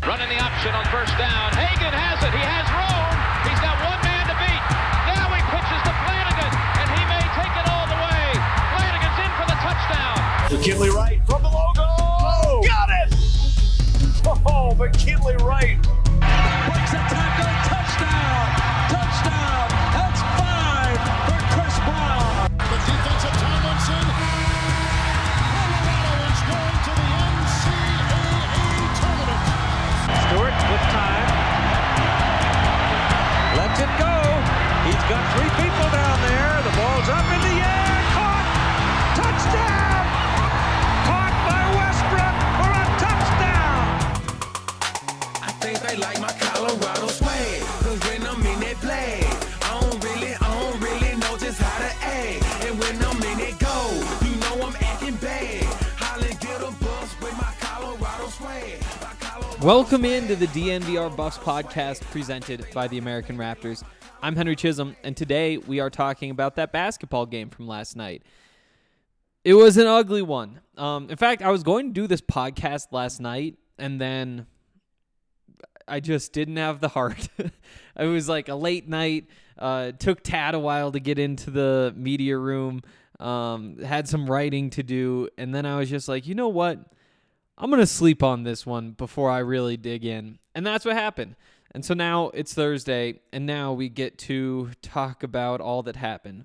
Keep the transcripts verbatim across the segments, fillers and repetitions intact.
Running the option on first down. Hagan has it. He has room. He's got one man to beat. Now he pitches to Flanagan, and he may take it all the way. Flanagan's in for the touchdown. McKinley Wright from the logo. Oh, got it! Oh, McKinley Wright. Breaks a tackle. Touchdown. Touchdown. That's five for Chris Brown. The defensive Tomlinson. Colorado is going to the N C double A tournament. Stewart with time. Lets it go. He's got three people down there. The ball's up in the air. Caught. Touchdown. Caught by Westbrook for a touchdown. I think they like my Colorado swag. Cause when I'm in that play, I don't really, I don't really know just how to act. And when I'm in it go, you know I'm acting bad. Holly get a bus with my Colorado swag. My Colorado Welcome into the D N V R Buffs podcast presented by the American Raptors. I'm Henry Chisholm, and today we are talking about that basketball game from last night. It was an ugly one. Um, in fact, I was going to do this podcast last night, and then I just didn't have the heart. It was like a late night. Uh, it took Tad a while to get into the media room. Um, had some writing to do, and then I was just like, you know what? I'm going to sleep on this one before I really dig in. And that's what happened. And so now it's Thursday, and now we get to talk about all that happened.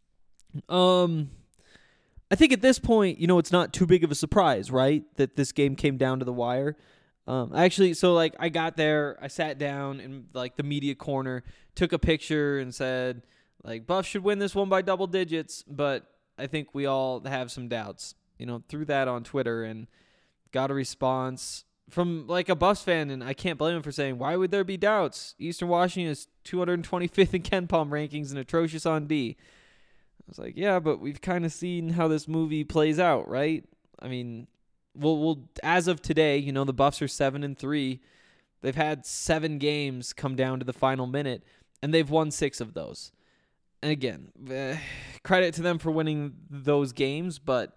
Um, I think at this point, you know, it's not too big of a surprise, right, that this game came down to the wire. Um, actually, so, like, I got there, I sat down in, like, the media corner, took a picture and said, like, Buff should win this one by double digits, but I think we all have some doubts. You know, threw that on Twitter and got a response from, like, a Buffs fan, and I can't blame him for saying, why would there be doubts? Eastern Washington is two hundred twenty-fifth in KenPom rankings and atrocious on D. I was like, yeah, but we've kind of seen how this movie plays out, right? I mean, we'll, we'll as of today, you know, the Buffs are seven and three. They've had seven games come down to the final minute, and they've won six of those. And again, eh, credit to them for winning those games, but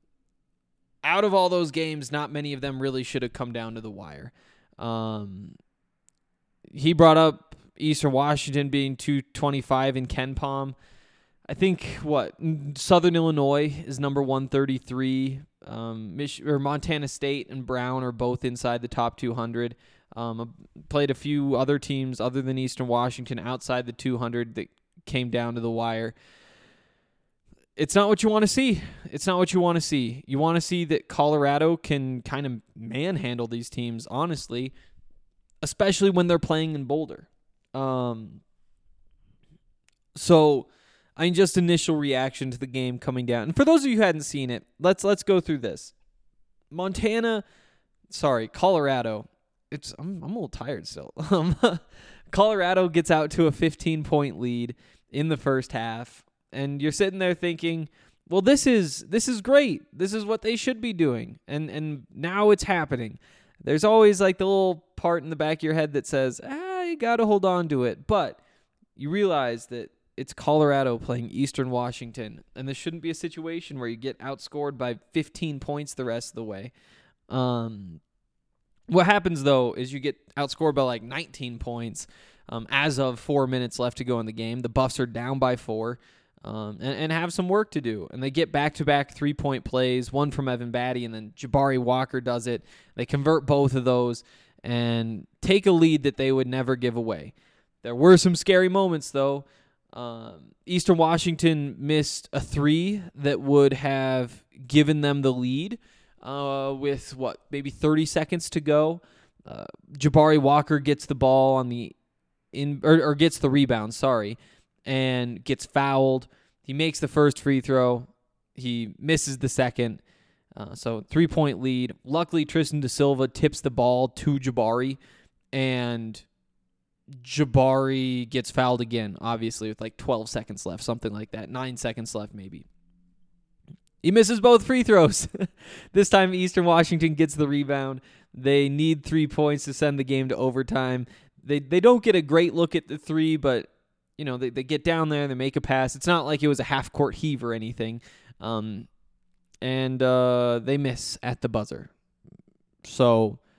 out of all those games, not many of them really should have come down to the wire. Um, he brought up Eastern Washington being two twenty-five in KenPom. I think, what, Southern Illinois is number one thirty-three. Um, Mich- or Montana State and Brown are both inside the top two hundred. Um, played a few other teams other than Eastern Washington outside the two hundred that came down to the wire. It's not what you want to see. It's not what you want to see. You want to see that Colorado can kind of manhandle these teams, honestly, especially when they're playing in Boulder. Um, so, I mean, just initial reaction to the game coming down. And for those of you who hadn't seen it, let's let's go through this. Montana, sorry, Colorado. It's I'm I'm a little tired still. Um, Colorado gets out to a fifteen-point lead in the first half. And you're sitting there thinking, well, this is this is great. This is what they should be doing. And and now it's happening. There's always like the little part in the back of your head that says, ah, you got to hold on to it. But you realize that it's Colorado playing Eastern Washington. And this shouldn't be a situation where you get outscored by fifteen points the rest of the way. Um, what happens, though, is you get outscored by like nineteen points um, as of four minutes left to go in the game. The Buffs are down by four. Um, and, and have some work to do. And they get back-to-back three-point plays, one from Evan Batty, and then Jabari Walker does it. They convert both of those and take a lead that they would never give away. There were some scary moments, though. Um, Eastern Washington missed a three that would have given them the lead uh, with, what, maybe thirty seconds to go. Uh, Jabari Walker gets the ball on the in or, or gets the rebound, sorry, and gets fouled. He makes the first free throw. He misses the second. Uh, so three-point lead. Luckily, Tristan Da Silva tips the ball to Jabari, and Jabari gets fouled again, obviously, with like twelve seconds left, something like that. Nine seconds left, maybe. He misses both free throws. This time, Eastern Washington gets the rebound. They need three points to send the game to overtime. They they don't get a great look at the three, but you know they, they get down there, they make a pass. It's not like it was a half-court heave or anything. Um, and uh, they miss at the buzzer. So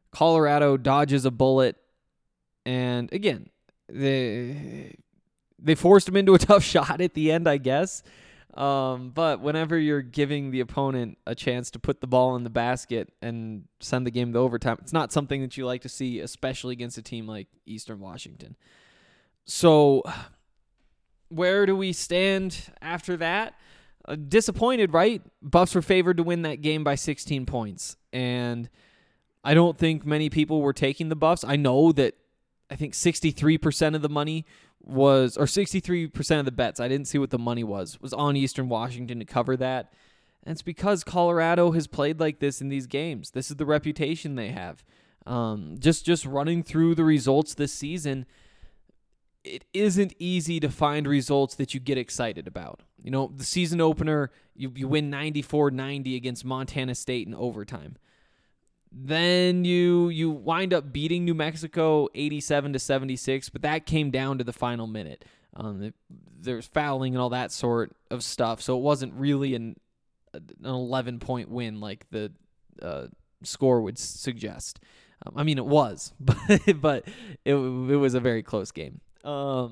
Colorado dodges a bullet, and again, they they forced him into a tough shot at the end, I guess. Um, but whenever you're giving the opponent a chance to put the ball in the basket and send the game to overtime, it's not something that you like to see, especially against a team like Eastern Washington. So where do we stand after that? Uh, disappointed, right? Buffs were favored to win that game by sixteen points. And I don't think many people were taking the Buffs. I know that I think sixty-three percent of the money was, or sixty-three percent of the bets, I didn't see what the money was, was on Eastern Washington to cover that. And it's because Colorado has played like this in these games. This is the reputation they have. Um, just, just running through the results this season, it isn't easy to find results that you get excited about. You know, the season opener, you, you win ninety-four ninety against Montana State in overtime. Then you you wind up beating New Mexico eighty-seven to seventy-six, but that came down to the final minute. Um, it, there's fouling and all that sort of stuff, so it wasn't really an an eleven-point win like the uh, score would suggest. Um, I mean, it was, but but it it was a very close game. Um,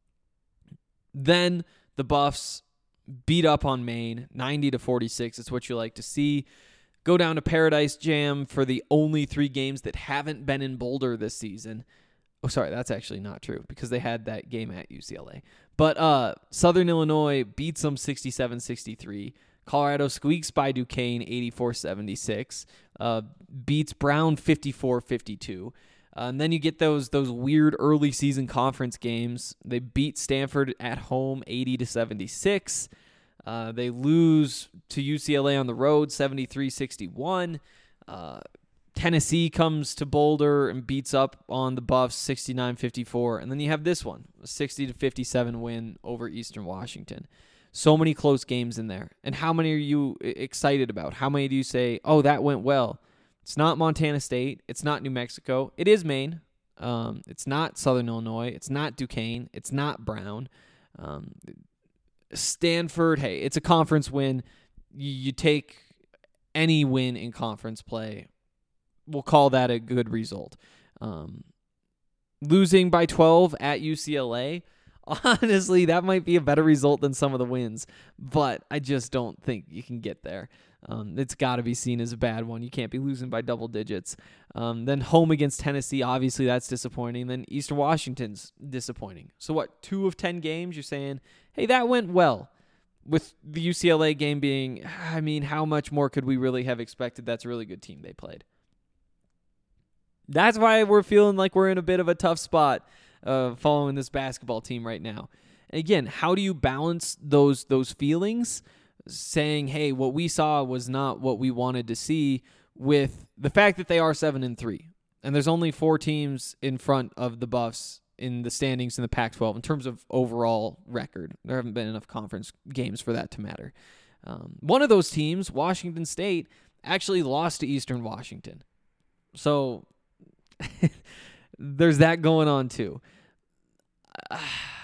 then the Buffs beat up on Maine ninety to forty-six. It's what you like to see. Go down to Paradise Jam for the only three games that haven't been in Boulder this season. Oh, sorry, that's actually not true because they had that game at U C L A. But uh, Southern Illinois beats them sixty-seven sixty-three. Colorado squeaks by Duquesne eighty-four seventy-six. Uh, beats Brown fifty-four fifty-two. Uh, and then you get those those weird early season conference games. They beat Stanford at home eighty to seventy-six. Uh, they lose to U C L A on the road, seventy-three sixty-one. Uh, Tennessee comes to Boulder and beats up on the Buffs, sixty-nine fifty-four. And then you have this one, a sixty to fifty-seven win over Eastern Washington. So many close games in there. And how many are you excited about? How many do you say, oh, that went well? It's not Montana State. It's not New Mexico. It is Maine. Um, it's not Southern Illinois. It's not Duquesne. It's not Brown. Um Stanford, hey, it's a conference win. You, you take any win in conference play. We'll call that a good result. Um, losing by twelve at U C L A, honestly, that might be a better result than some of the wins, but I just don't think you can get there. Um, it's got to be seen as a bad one. You can't be losing by double digits. Um, then home against Tennessee, obviously that's disappointing. Then Eastern Washington's disappointing. So what, two of ten games, you're saying, hey, that went well. With the U C L A game being, I mean, how much more could we really have expected? That's a really good team they played. That's why we're feeling like we're in a bit of a tough spot uh, following this basketball team right now. And again, how do you balance those those feelings? Saying, hey, what we saw was not what we wanted to see, with the fact that they are seven and three, and there's only four teams in front of the Buffs in the standings in the Pac twelve in terms of overall record. There haven't been enough conference games for that to matter. Um, one of those teams, Washington State, actually lost to Eastern Washington, so there's that going on too. Uh,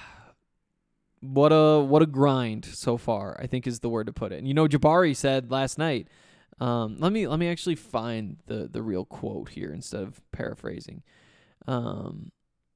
What a what a grind so far, I think is the word to put it. And you know, Jabari said last night, um, let me let me actually find the, the real quote here instead of paraphrasing. Um,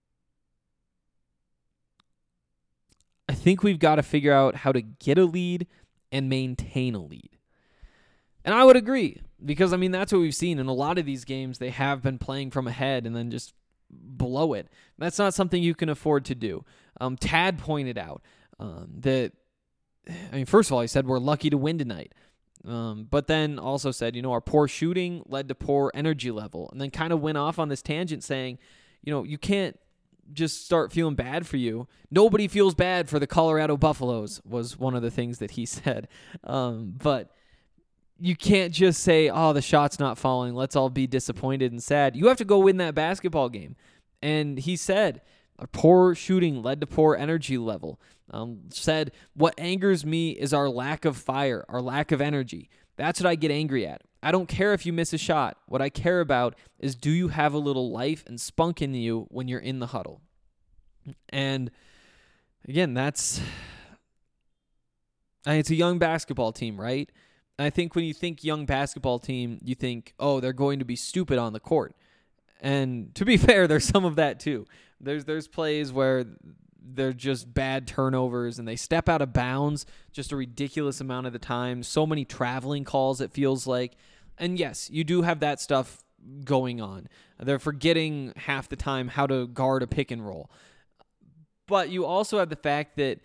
I think we've got to figure out how to get a lead and maintain a lead. And I would agree, because, I mean, that's what we've seen in a lot of these games. They have been playing from ahead and then just blow it. That's not something you can afford to do. Um, Tad pointed out um, that, I mean, first of all, he said we're lucky to win tonight. Um, but then also said, you know, our poor shooting led to poor energy level. And then kind of went off on this tangent saying, you know, you can't just start feeling bad for you. Nobody feels bad for the Colorado Buffaloes was one of the things that he said. Um, but you can't just say, oh, the shot's not falling, let's all be disappointed and sad. You have to go win that basketball game. And he said, our poor shooting led to poor energy level. Um, said, what angers me is our lack of fire, our lack of energy. That's what I get angry at. I don't care if you miss a shot. What I care about is, do you have a little life and spunk in you when you're in the huddle? And again, that's, I mean, it's a young basketball team, right? And I think when you think young basketball team, you think, oh, they're going to be stupid on the court. And to be fair, there's some of that too. There's there's plays where they're just bad turnovers and they step out of bounds just a ridiculous amount of the time. So many traveling calls, it feels like. And yes, you do have that stuff going on. They're forgetting half the time how to guard a pick and roll. But you also have the fact that,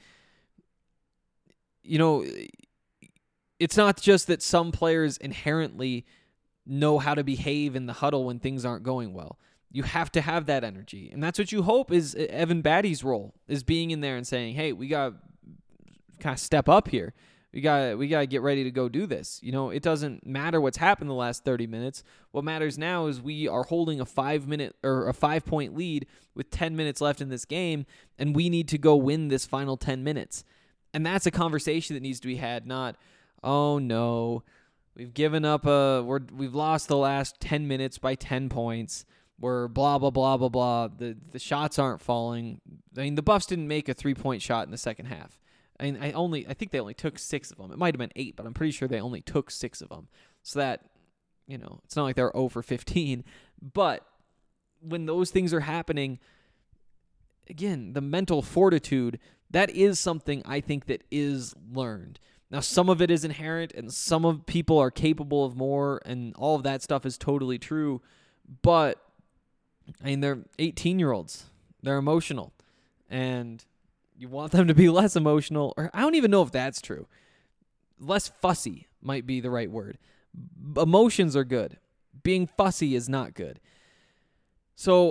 you know, it's not just that some players inherently know how to behave in the huddle when things aren't going well. You have to have that energy. And that's what you hope is Evan Batty's role, is being in there and saying, hey, we got to kind of step up here. We got we got to get ready to go do this. You know, it doesn't matter what's happened the last thirty minutes. What matters now is we are holding a five-minute or a five-point lead with ten minutes left in this game, and we need to go win this final ten minutes. And that's a conversation that needs to be had, not, oh, no, we've given up a we're we've lost the last ten minutes by ten points. We're blah, blah, blah, blah, blah. The the shots aren't falling. I mean, the Buffs didn't make a three-point shot in the second half. I mean, I only I think they only took six of them. It might have been eight, but I'm pretty sure they only took six of them. So that, you know, it's not like they're zero for fifteen. But when those things are happening, again, the mental fortitude, that is something I think that is learned. Now, some of it is inherent, and some of people are capable of more, and all of that stuff is totally true. But I mean, they're eighteen-year-olds. They're emotional. And you want them to be less emotional. Or I don't even know if that's true. Less fussy might be the right word. Emotions are good. Being fussy is not good. So,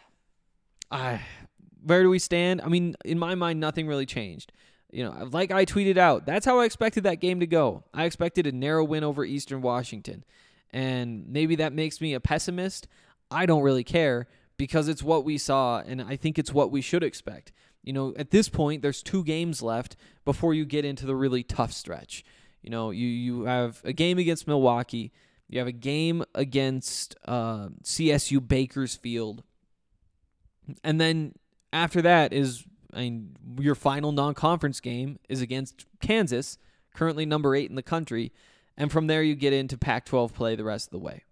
I, where do we stand? I mean, in my mind, nothing really changed. You know, like I tweeted out, that's how I expected that game to go. I expected a narrow win over Eastern Washington. And maybe that makes me a pessimist. I don't really care because it's what we saw, and I think it's what we should expect. You know, at this point, there's two games left before you get into the really tough stretch. You know, you, you have a game against Milwaukee. You have a game against uh, C S U Bakersfield. And then after that is, I mean, your final non-conference game is against Kansas, currently number eight in the country. And from there, you get into Pac twelve play the rest of the way.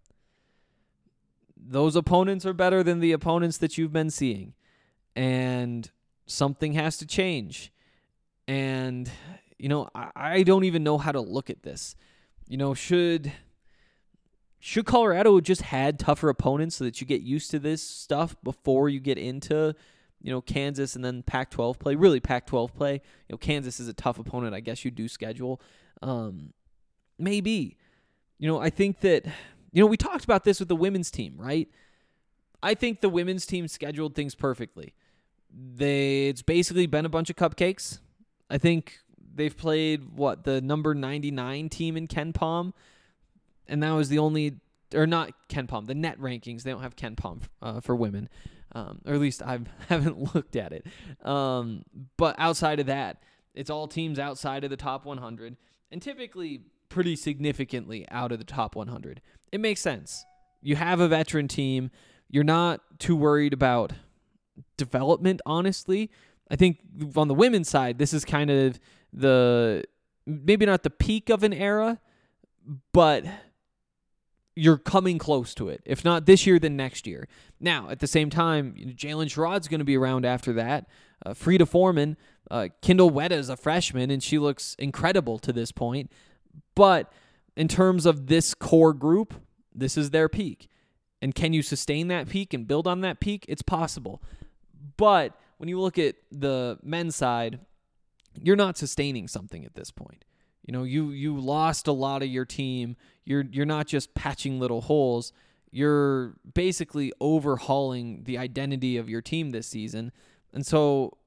Those opponents are better than the opponents that you've been seeing. And something has to change. And, you know, I, I don't even know how to look at this. You know, should should Colorado just had tougher opponents so that you get used to this stuff before you get into, you know, Kansas and then Pac twelve play? Really, Pac twelve play. You know, Kansas is a tough opponent, I guess you do schedule. Um, maybe. You know, I think that, you know, we talked about this with the women's team, right? I think the women's team scheduled things perfectly. They It's basically been a bunch of cupcakes. I think they've played, what, the number ninety-nine team in KenPom, and that was the only, or not KenPom, the net rankings. They don't have KenPom uh, for women, um, or at least I haven't looked at it. Um, but outside of that, it's all teams outside of the top one hundred, and typically pretty significantly out of the top one hundred. It makes sense. You have a veteran team. You're not too worried about development, honestly. I think on the women's side, this is kind of the, maybe not the peak of an era, but you're coming close to it. If not this year, then next year. Now, at the same time, Jalen Sherrod's going to be around after that. Uh, Frida Foreman, uh, Kendall Wetta is a freshman, and she looks incredible to this point. But in terms of this core group, this is their peak. And can you sustain that peak and build on that peak? It's possible. But when you look at the men's side, you're not sustaining something at this point. You know, you you lost a lot of your team. You're you're not just patching little holes. You're basically overhauling the identity of your team this season. And so,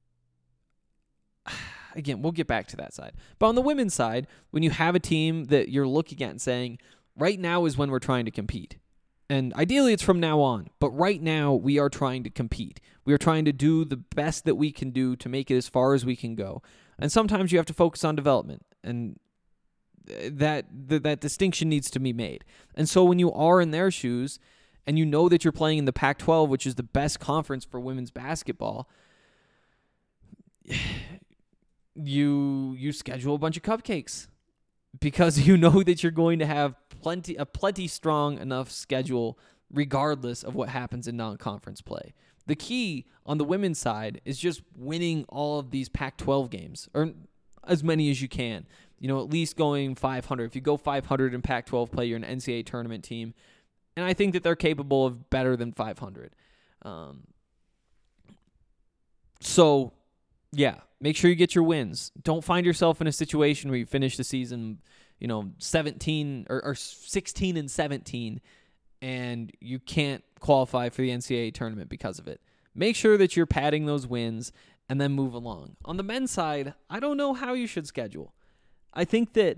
again, we'll get back to that side. But on the women's side, when you have a team that you're looking at and saying, right now is when we're trying to compete. And ideally it's from now on. But right now we are trying to compete. We are trying to do the best that we can do to make it as far as we can go. And sometimes you have to focus on development. And that that, that distinction needs to be made. And so when you are in their shoes and you know that you're playing in the Pac twelve, which is the best conference for women's basketball, you you schedule a bunch of cupcakes because you know that you're going to have plenty a plenty strong enough schedule regardless of what happens in non-conference play. The key on the women's side is just winning all of these Pac twelve games, or as many as you can. You know, at least going five hundred. If you go five hundred in Pac twelve play, you're an N C double A tournament team. And I think that they're capable of better than five hundred. Um, so, yeah, make sure you get your wins. Don't find yourself in a situation where you finish the season, you know, seventeen or, or sixteen and seventeen, and you can't qualify for the N C double A tournament because of it. Make sure that you're padding those wins and then move along. On the men's side, I don't know how you should schedule. I think that,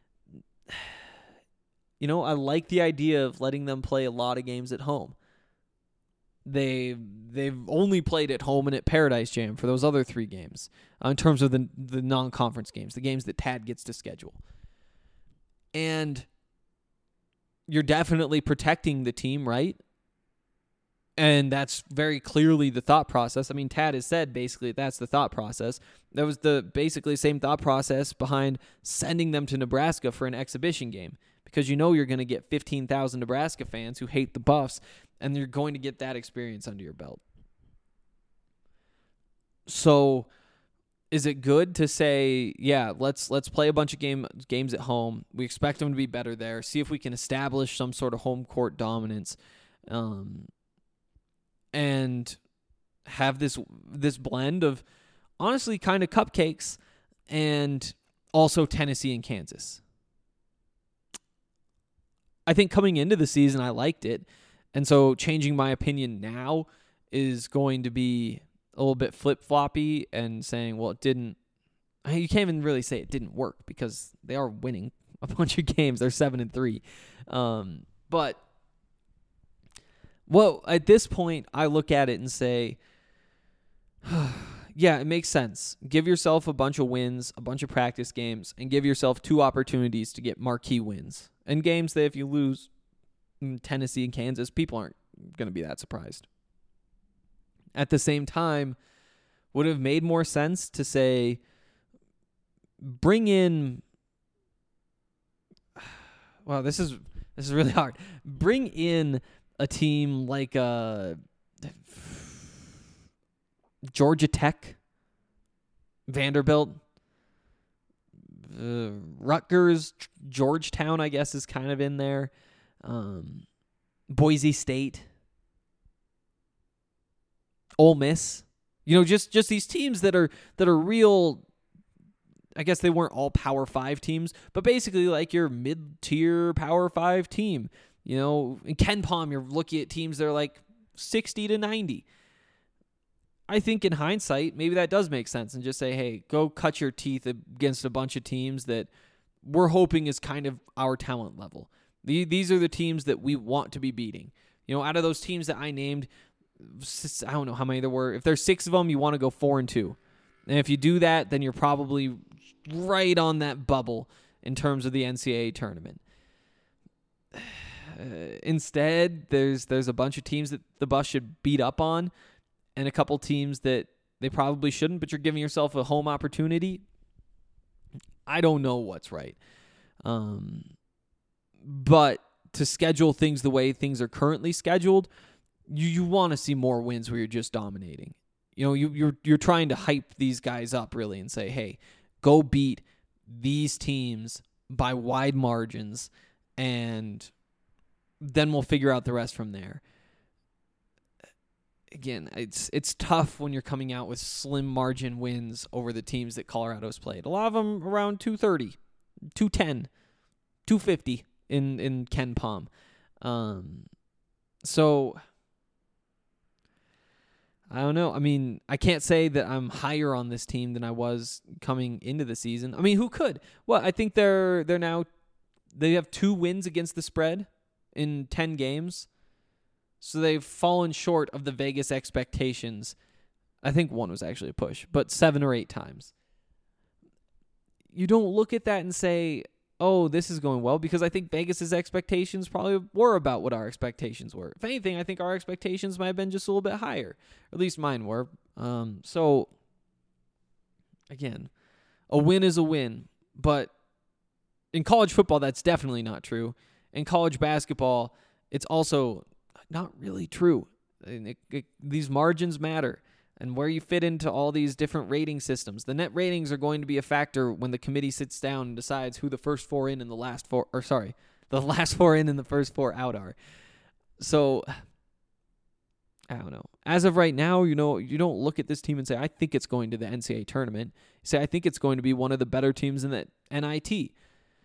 you know, I like the idea of letting them play a lot of games at home. They, they've only played at home and at Paradise Jam for those other three games uh, in terms of the, the non-conference games, the games that Tad gets to schedule. And you're definitely protecting the team, right? And that's very clearly the thought process. I mean, Tad has said basically that's the thought process. That was the basically same thought process behind sending them to Nebraska for an exhibition game, because you know you're going to get fifteen thousand Nebraska fans who hate the Buffs, and you're going to get that experience under your belt. So is it good to say, yeah, let's let's play a bunch of game games at home. We expect them to be better there. See if we can establish some sort of home court dominance. Um And have this this blend of honestly kind of cupcakes and also Tennessee and Kansas. I think coming into the season, I liked it. And so changing my opinion now is going to be a little bit flip-floppy and saying, well, it didn't. You can't even really say it didn't work because they are winning a bunch of games. They're seven and three. Um, but Well, at this point, I look at it and say, yeah, it makes sense. Give yourself a bunch of wins, a bunch of practice games, and give yourself two opportunities to get marquee wins. And games that if you lose Tennessee and Kansas, people aren't going to be that surprised. At the same time, would it have made more sense to say, bring in, well, this is this is really hard. Bring in a team like uh, Georgia Tech, Vanderbilt, uh, Rutgers, Georgetown, I guess, is kind of in there. Um, Boise State, Ole Miss. You know, just, just these teams that are that are real. I guess they weren't all Power Five teams, but basically like your mid-tier Power Five team. You know, in Ken Palm, you're looking at teams that are like sixty to ninety. I think in hindsight, maybe that does make sense, and just say, hey, go cut your teeth against a bunch of teams that we're hoping is kind of our talent level. These are the teams that we want to be beating. You know, out of those teams that I named, I don't know how many there were. If there's six of them, you want to go four and two. And if you do that, then you're probably right on that bubble in terms of the N C double A tournament. Uh, instead, there's there's a bunch of teams that the Buffs should beat up on, and a couple teams that they probably shouldn't, but you're giving yourself a home opportunity. I don't know what's right. Um, but to schedule things the way things are currently scheduled, you, you want to see more wins where you're just dominating. You know, you, you're you're trying to hype these guys up really and say, hey, go beat these teams by wide margins, and then we'll figure out the rest from there. Again, it's it's tough when you're coming out with slim margin wins over the teams that Colorado's played. A lot of them around two thirty, two ten, two fifty in, in Ken Palm. Um, so, I don't know. I mean, I can't say that I'm higher on this team than I was coming into the season. I mean, who could? Well, I think they're they're now, they have two wins against the spread in ten games. So they've fallen short of the Vegas expectations. I think one was actually a push, but seven or eight times. You don't look at that and say, oh, this is going well, because I think Vegas's expectations probably were about what our expectations were. If anything, I think our expectations might have been just a little bit higher. Or at least mine were. Um, so, again, a win is a win. But in college football, that's definitely not true. In college basketball, it's also not really true. And it, it, these margins matter, and where you fit into all these different rating systems. The net ratings are going to be a factor when the committee sits down and decides who the first four in and the last four, or sorry, the last four in and the first four out are. So, I don't know. As of right now, you know, you don't look at this team and say, I think it's going to the N C double A tournament. You say, I think it's going to be one of the better teams in the N I T.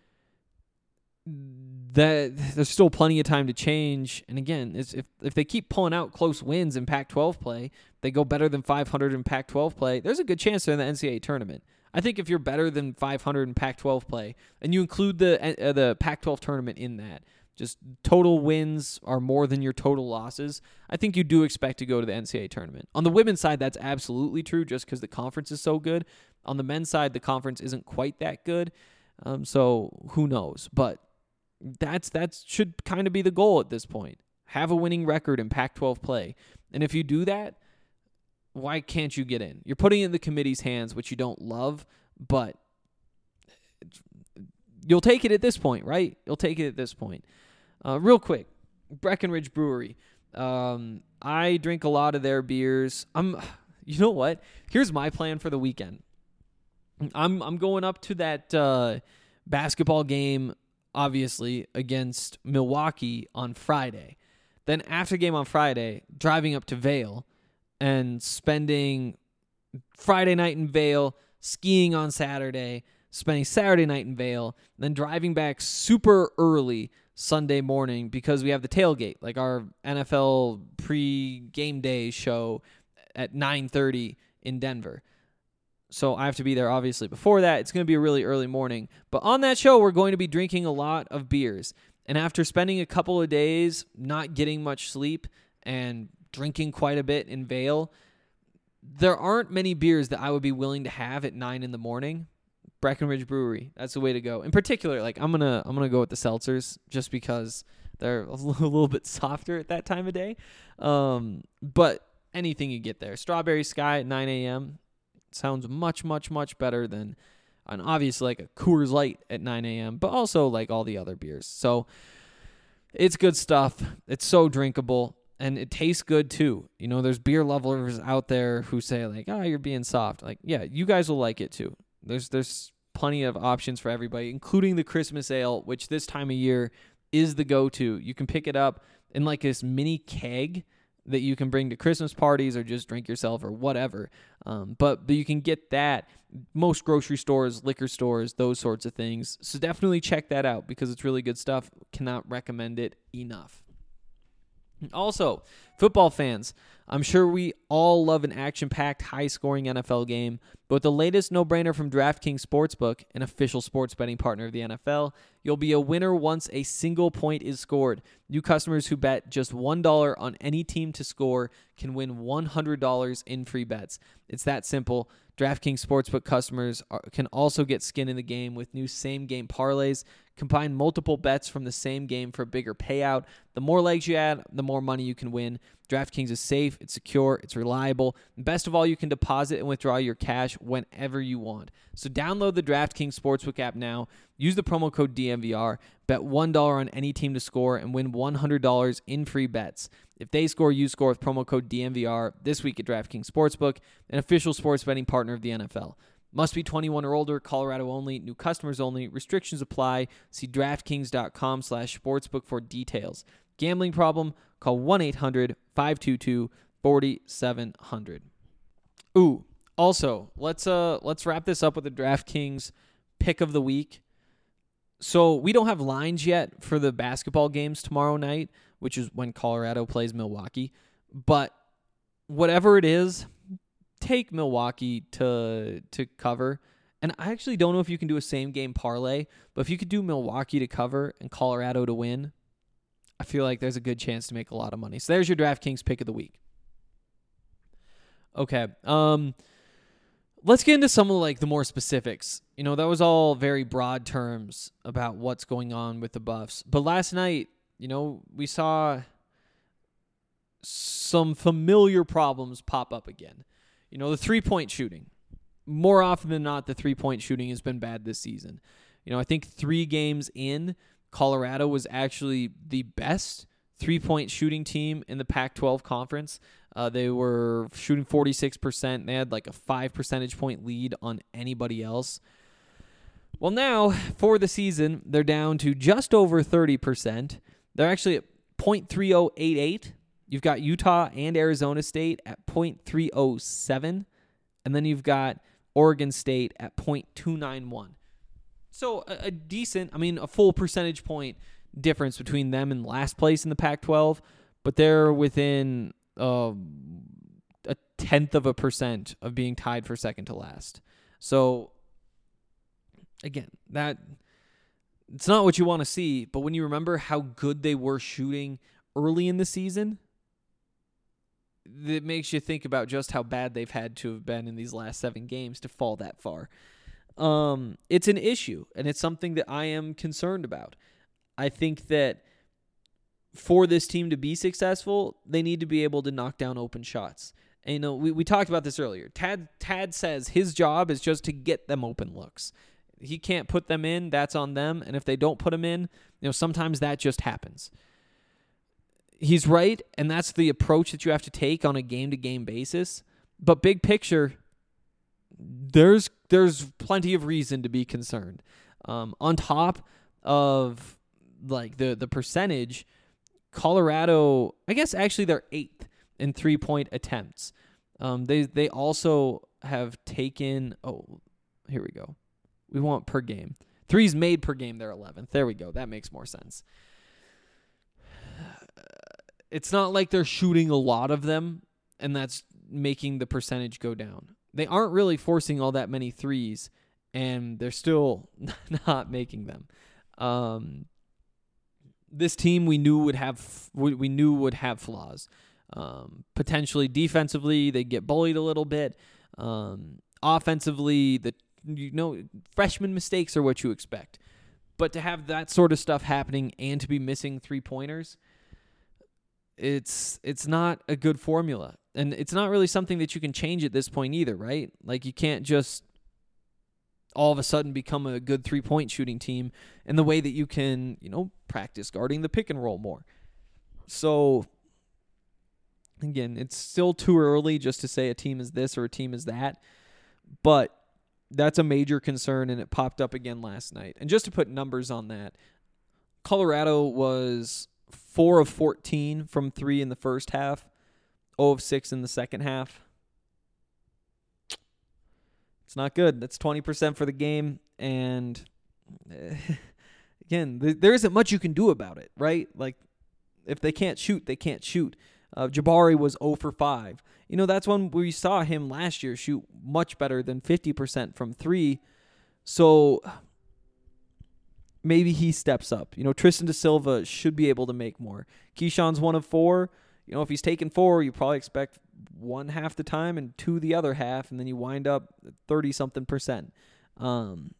That there's still plenty of time to change. And again, it's, if if they keep pulling out close wins in Pac twelve play, they go better than five hundred in Pac twelve play, there's a good chance they're in the N C double A tournament. I think if you're better than five hundred in Pac twelve play, and you include the uh, the Pac twelve tournament in that, just total wins are more than your total losses, I think you do expect to go to the N C double A tournament. On the women's side, that's absolutely true just because the conference is so good. On the men's side, the conference isn't quite that good. Um, so who knows? But that's that should kind of be the goal at this point. Have a winning record in Pac twelve play. And if you do that, why can't you get in? You're putting it in the committee's hands, which you don't love, but you'll take it at this point, right? You'll take it at this point. Uh, real quick, Breckenridge Brewery. Um, I drink a lot of their beers. I'm, you know what? Here's my plan for the weekend. I'm I'm going up to that uh, basketball game, obviously, against Milwaukee on Friday. Then after game on Friday, driving up to Vail and spending Friday night in Vail, skiing on Saturday, spending Saturday night in Vail, then driving back super early Sunday morning because we have the tailgate, like our N F L pre-game day show at nine thirty in Denver. So I have to be there, obviously, before that. It's going to be a really early morning. But on that show, we're going to be drinking a lot of beers. And after spending a couple of days not getting much sleep and drinking quite a bit in Vail, there aren't many beers that I would be willing to have at nine in the morning. Breckenridge Brewery, that's the way to go. In particular, like I'm gonna I'm gonna go with the seltzers just because they're a little bit softer at that time of day. Um, but anything you get there, Strawberry Sky at nine a.m. sounds much, much, much better than an obviously like a Coors Light at nine a.m., but also like all the other beers. So it's good stuff. It's so drinkable, and it tastes good too. You know, there's beer lovers out there who say like, oh, you're being soft. Like, yeah, you guys will like it too. There's there's plenty of options for everybody, including the Christmas ale, which this time of year is the go-to. You can pick it up in like this mini keg that you can bring to Christmas parties or just drink yourself or whatever. Um, but, but you can get that most grocery stores, liquor stores, those sorts of things. So definitely check that out because it's really good stuff. Cannot recommend it enough. Also, football fans, I'm sure we all love an action-packed, high-scoring N F L game, but with the latest no-brainer from DraftKings Sportsbook, an official sports betting partner of the N F L, you'll be a winner once a single point is scored. New customers who bet just one dollar on any team to score can win one hundred dollars in free bets. It's that simple. DraftKings Sportsbook customers are, can also get skin in the game with new same-game parlays. Combine multiple bets from the same game for a bigger payout. The more legs you add, the more money you can win. DraftKings is safe, it's secure, it's reliable. And best of all, you can deposit and withdraw your cash whenever you want. So download the DraftKings Sportsbook app now. Use the promo code D M V R. Bet one dollar on any team to score and win one hundred dollars in free bets. If they score, you score with promo code D M V R this week at DraftKings Sportsbook, an official sports betting partner of the N F L. Must be twenty-one or older, Colorado only, new customers only, restrictions apply. See DraftKings.com slash sportsbook for details. Gambling problem? Call one eight hundred five two two four seven zero zero. Ooh, also, let's uh let's wrap this up with the DraftKings pick of the week. So we don't have lines yet for the basketball games tomorrow night, which is when Colorado plays Milwaukee. But whatever it is, take Milwaukee to to cover. And I actually don't know if you can do a same game parlay, but if you could do Milwaukee to cover and Colorado to win, I feel like there's a good chance to make a lot of money. So there's your DraftKings pick of the week. Okay. Um, let's get into some of like the more specifics. You know, that was all very broad terms about what's going on with the Buffs. But last night, you know, we saw some familiar problems pop up again. You know, the three-point shooting. More often than not, the three-point shooting has been bad this season. You know, I think three games in, Colorado was actually the best three-point shooting team in the Pac twelve conference. Uh, they were shooting forty-six percent. They had like a five percentage point lead on anybody else. Well, now, for the season, they're down to just over thirty percent. They're actually at point three oh eight eight. You've got Utah and Arizona State at point three oh seven. And then you've got Oregon State at point two nine one. So a, a decent, I mean, a full percentage point difference between them and last place in the Pac twelve, but they're within uh, a tenth of a percent of being tied for second to last. So, again, that it's not what you want to see, but when you remember how good they were shooting early in the season, it makes you think about just how bad they've had to have been in these last seven games to fall that far. Um, it's an issue, and it's something that I am concerned about. I think that for this team to be successful, they need to be able to knock down open shots. And, you know, we, we talked about this earlier. Tad, Tad says his job is just to get them open looks. He can't put them in. That's on them. And if they don't put them in, you know, sometimes that just happens. He's right, and that's the approach that you have to take on a game-to-game basis. But big picture, there's there's plenty of reason to be concerned. Um, on top of like the the percentage, Colorado, I guess actually they're eighth in three-point attempts. Um, they they also have taken. Oh, here we go. We want per game. Threes made per game, they're eleventh. There we go. That makes more sense. It's not like they're shooting a lot of them, and that's making the percentage go down. They aren't really forcing all that many threes, and they're still not making them. Um, this team we knew would have we knew would have flaws. Um, potentially defensively, they get bullied a little bit. Um, offensively, the you know freshman mistakes are what you expect, but to have that sort of stuff happening and to be missing three pointers. It's it's not a good formula. And it's not really something that you can change at this point either, right? Like, you can't just all of a sudden become a good three-point shooting team in the way that you can, you know, practice guarding the pick and roll more. So, again, it's still too early just to say a team is this or a team is that. But that's a major concern, and it popped up again last night. And just to put numbers on that, Colorado was four of fourteen from three in the first half, zero of six in the second half. It's not good. That's twenty percent for the game. And uh, again, th- there isn't much you can do about it, right? Like, if they can't shoot, they can't shoot. Uh, Jabari was zero for five. You know, that's when we saw him last year shoot much better than fifty percent from three. So maybe he steps up. You know, Tristan Da Silva should be able to make more. Keyshawn's one of four. You know, if he's taking four, you probably expect one half the time and two the other half, and then you wind up thirty-something percent. Um,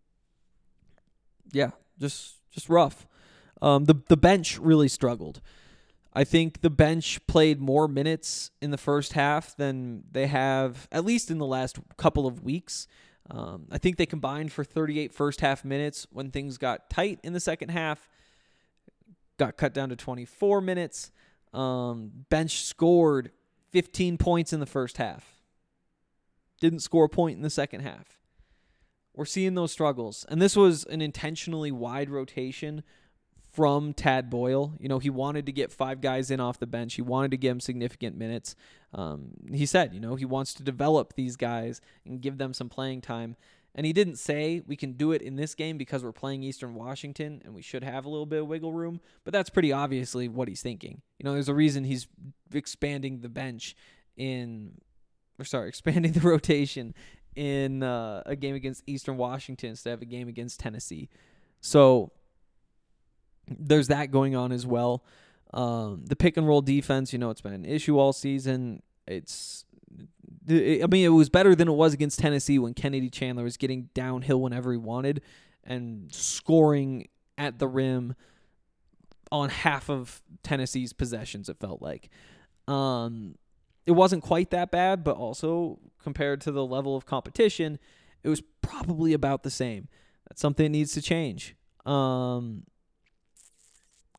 yeah, just just rough. Um, the the bench really struggled. I think the bench played more minutes in the first half than they have, at least in the last couple of weeks. Um, I think they combined for thirty-eight first-half minutes. When things got tight in the second half, got cut down to twenty-four minutes. Um, bench scored fifteen points in the first half. Didn't score a point in the second half. We're seeing those struggles. And this was an intentionally wide rotation from Tad Boyle. You know, he wanted to get five guys in off the bench. He wanted to give them significant minutes. Um, he said, you know, he wants to develop these guys and give them some playing time. And he didn't say we can do it in this game because we're playing Eastern Washington and we should have a little bit of wiggle room. But that's pretty obviously what he's thinking. You know, there's a reason he's expanding the bench in, or sorry, expanding the rotation in uh, a game against Eastern Washington instead of a game against Tennessee. So there's that going on as well. Um, the pick and roll defense, you know, it's been an issue all season. It's, I mean, it was better than it was against Tennessee when Kennedy Chandler was getting downhill whenever he wanted and scoring at the rim on half of Tennessee's possessions, it felt like. Um, it wasn't quite that bad, but also compared to the level of competition, it was probably about the same. That's something that needs to change. Um,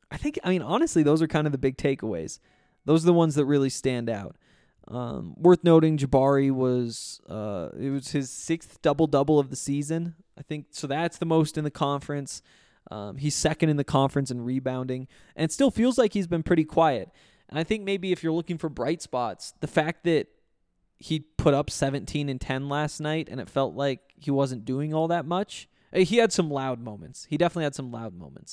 I think, I mean, honestly, those are kind of the big takeaways. Those are the ones that really stand out. Um, worth noting, Jabari was uh, it was his sixth double-double of the season, I think. So that's the most in the conference. Um, he's second in the conference in rebounding, and it still feels like he's been pretty quiet. And I think maybe if you're looking for bright spots, the fact that he put up seventeen and ten last night, and it felt like he wasn't doing all that much. He had some loud moments. He definitely had some loud moments.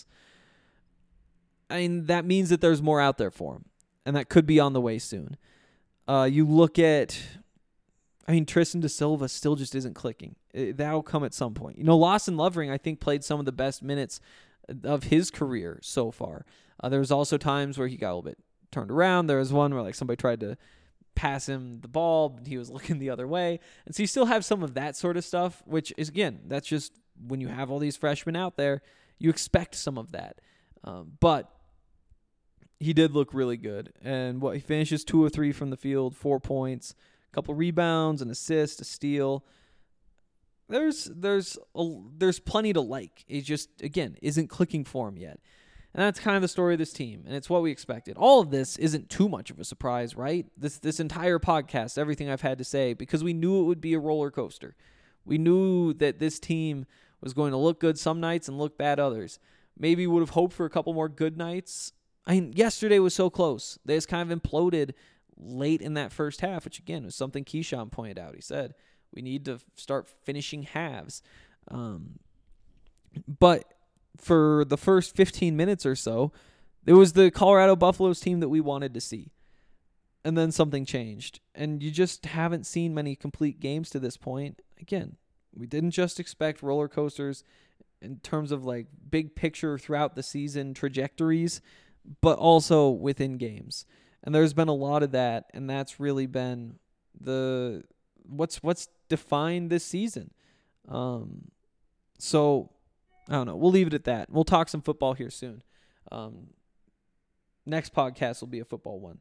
I mean, that means that there's more out there for him, and that could be on the way soon. Uh, you look at, I mean, Tristan da Silva still just isn't clicking. It, that'll come at some point. You know, Lawson Lovering, I think, played some of the best minutes of his career so far. Uh, there was also times where he got a little bit turned around. There was one where like somebody tried to pass him the ball, but he was looking the other way. And so you still have some of that sort of stuff, which is, again, that's just when you have all these freshmen out there, you expect some of that. Um, but he did look really good. And what he finishes two or three from the field, four points, a couple rebounds, an assist, a steal. There's there's a, there's plenty to like. He just, again, isn't clicking for him yet. And that's kind of the story of this team, and it's what we expected. All of this isn't too much of a surprise, right? This this entire podcast, everything I've had to say, because we knew it would be a roller coaster. We knew that this team was going to look good some nights and look bad others. Maybe would have hoped for a couple more good nights. I mean, yesterday was so close. They just kind of imploded late in that first half, which, again, was something Keyshawn pointed out. He said, we need to start finishing halves. Um, but for the first fifteen minutes or so, it was the Colorado Buffaloes team that we wanted to see. And then something changed. And you just haven't seen many complete games to this point. Again, we didn't just expect roller coasters in terms of like big picture throughout the season trajectories, but also within games. And there's been a lot of that, and that's really been the what's what's defined this season. Um, so I don't know. We'll leave it at that. We'll talk some football here soon. Um, next podcast will be a football one.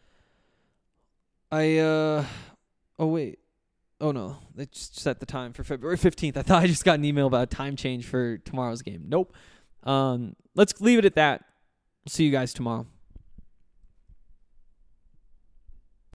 I uh oh wait. Oh no, they just set the time for February fifteenth. I thought I just got an email about a time change for tomorrow's game. Nope. Um, let's leave it at that. See you guys tomorrow.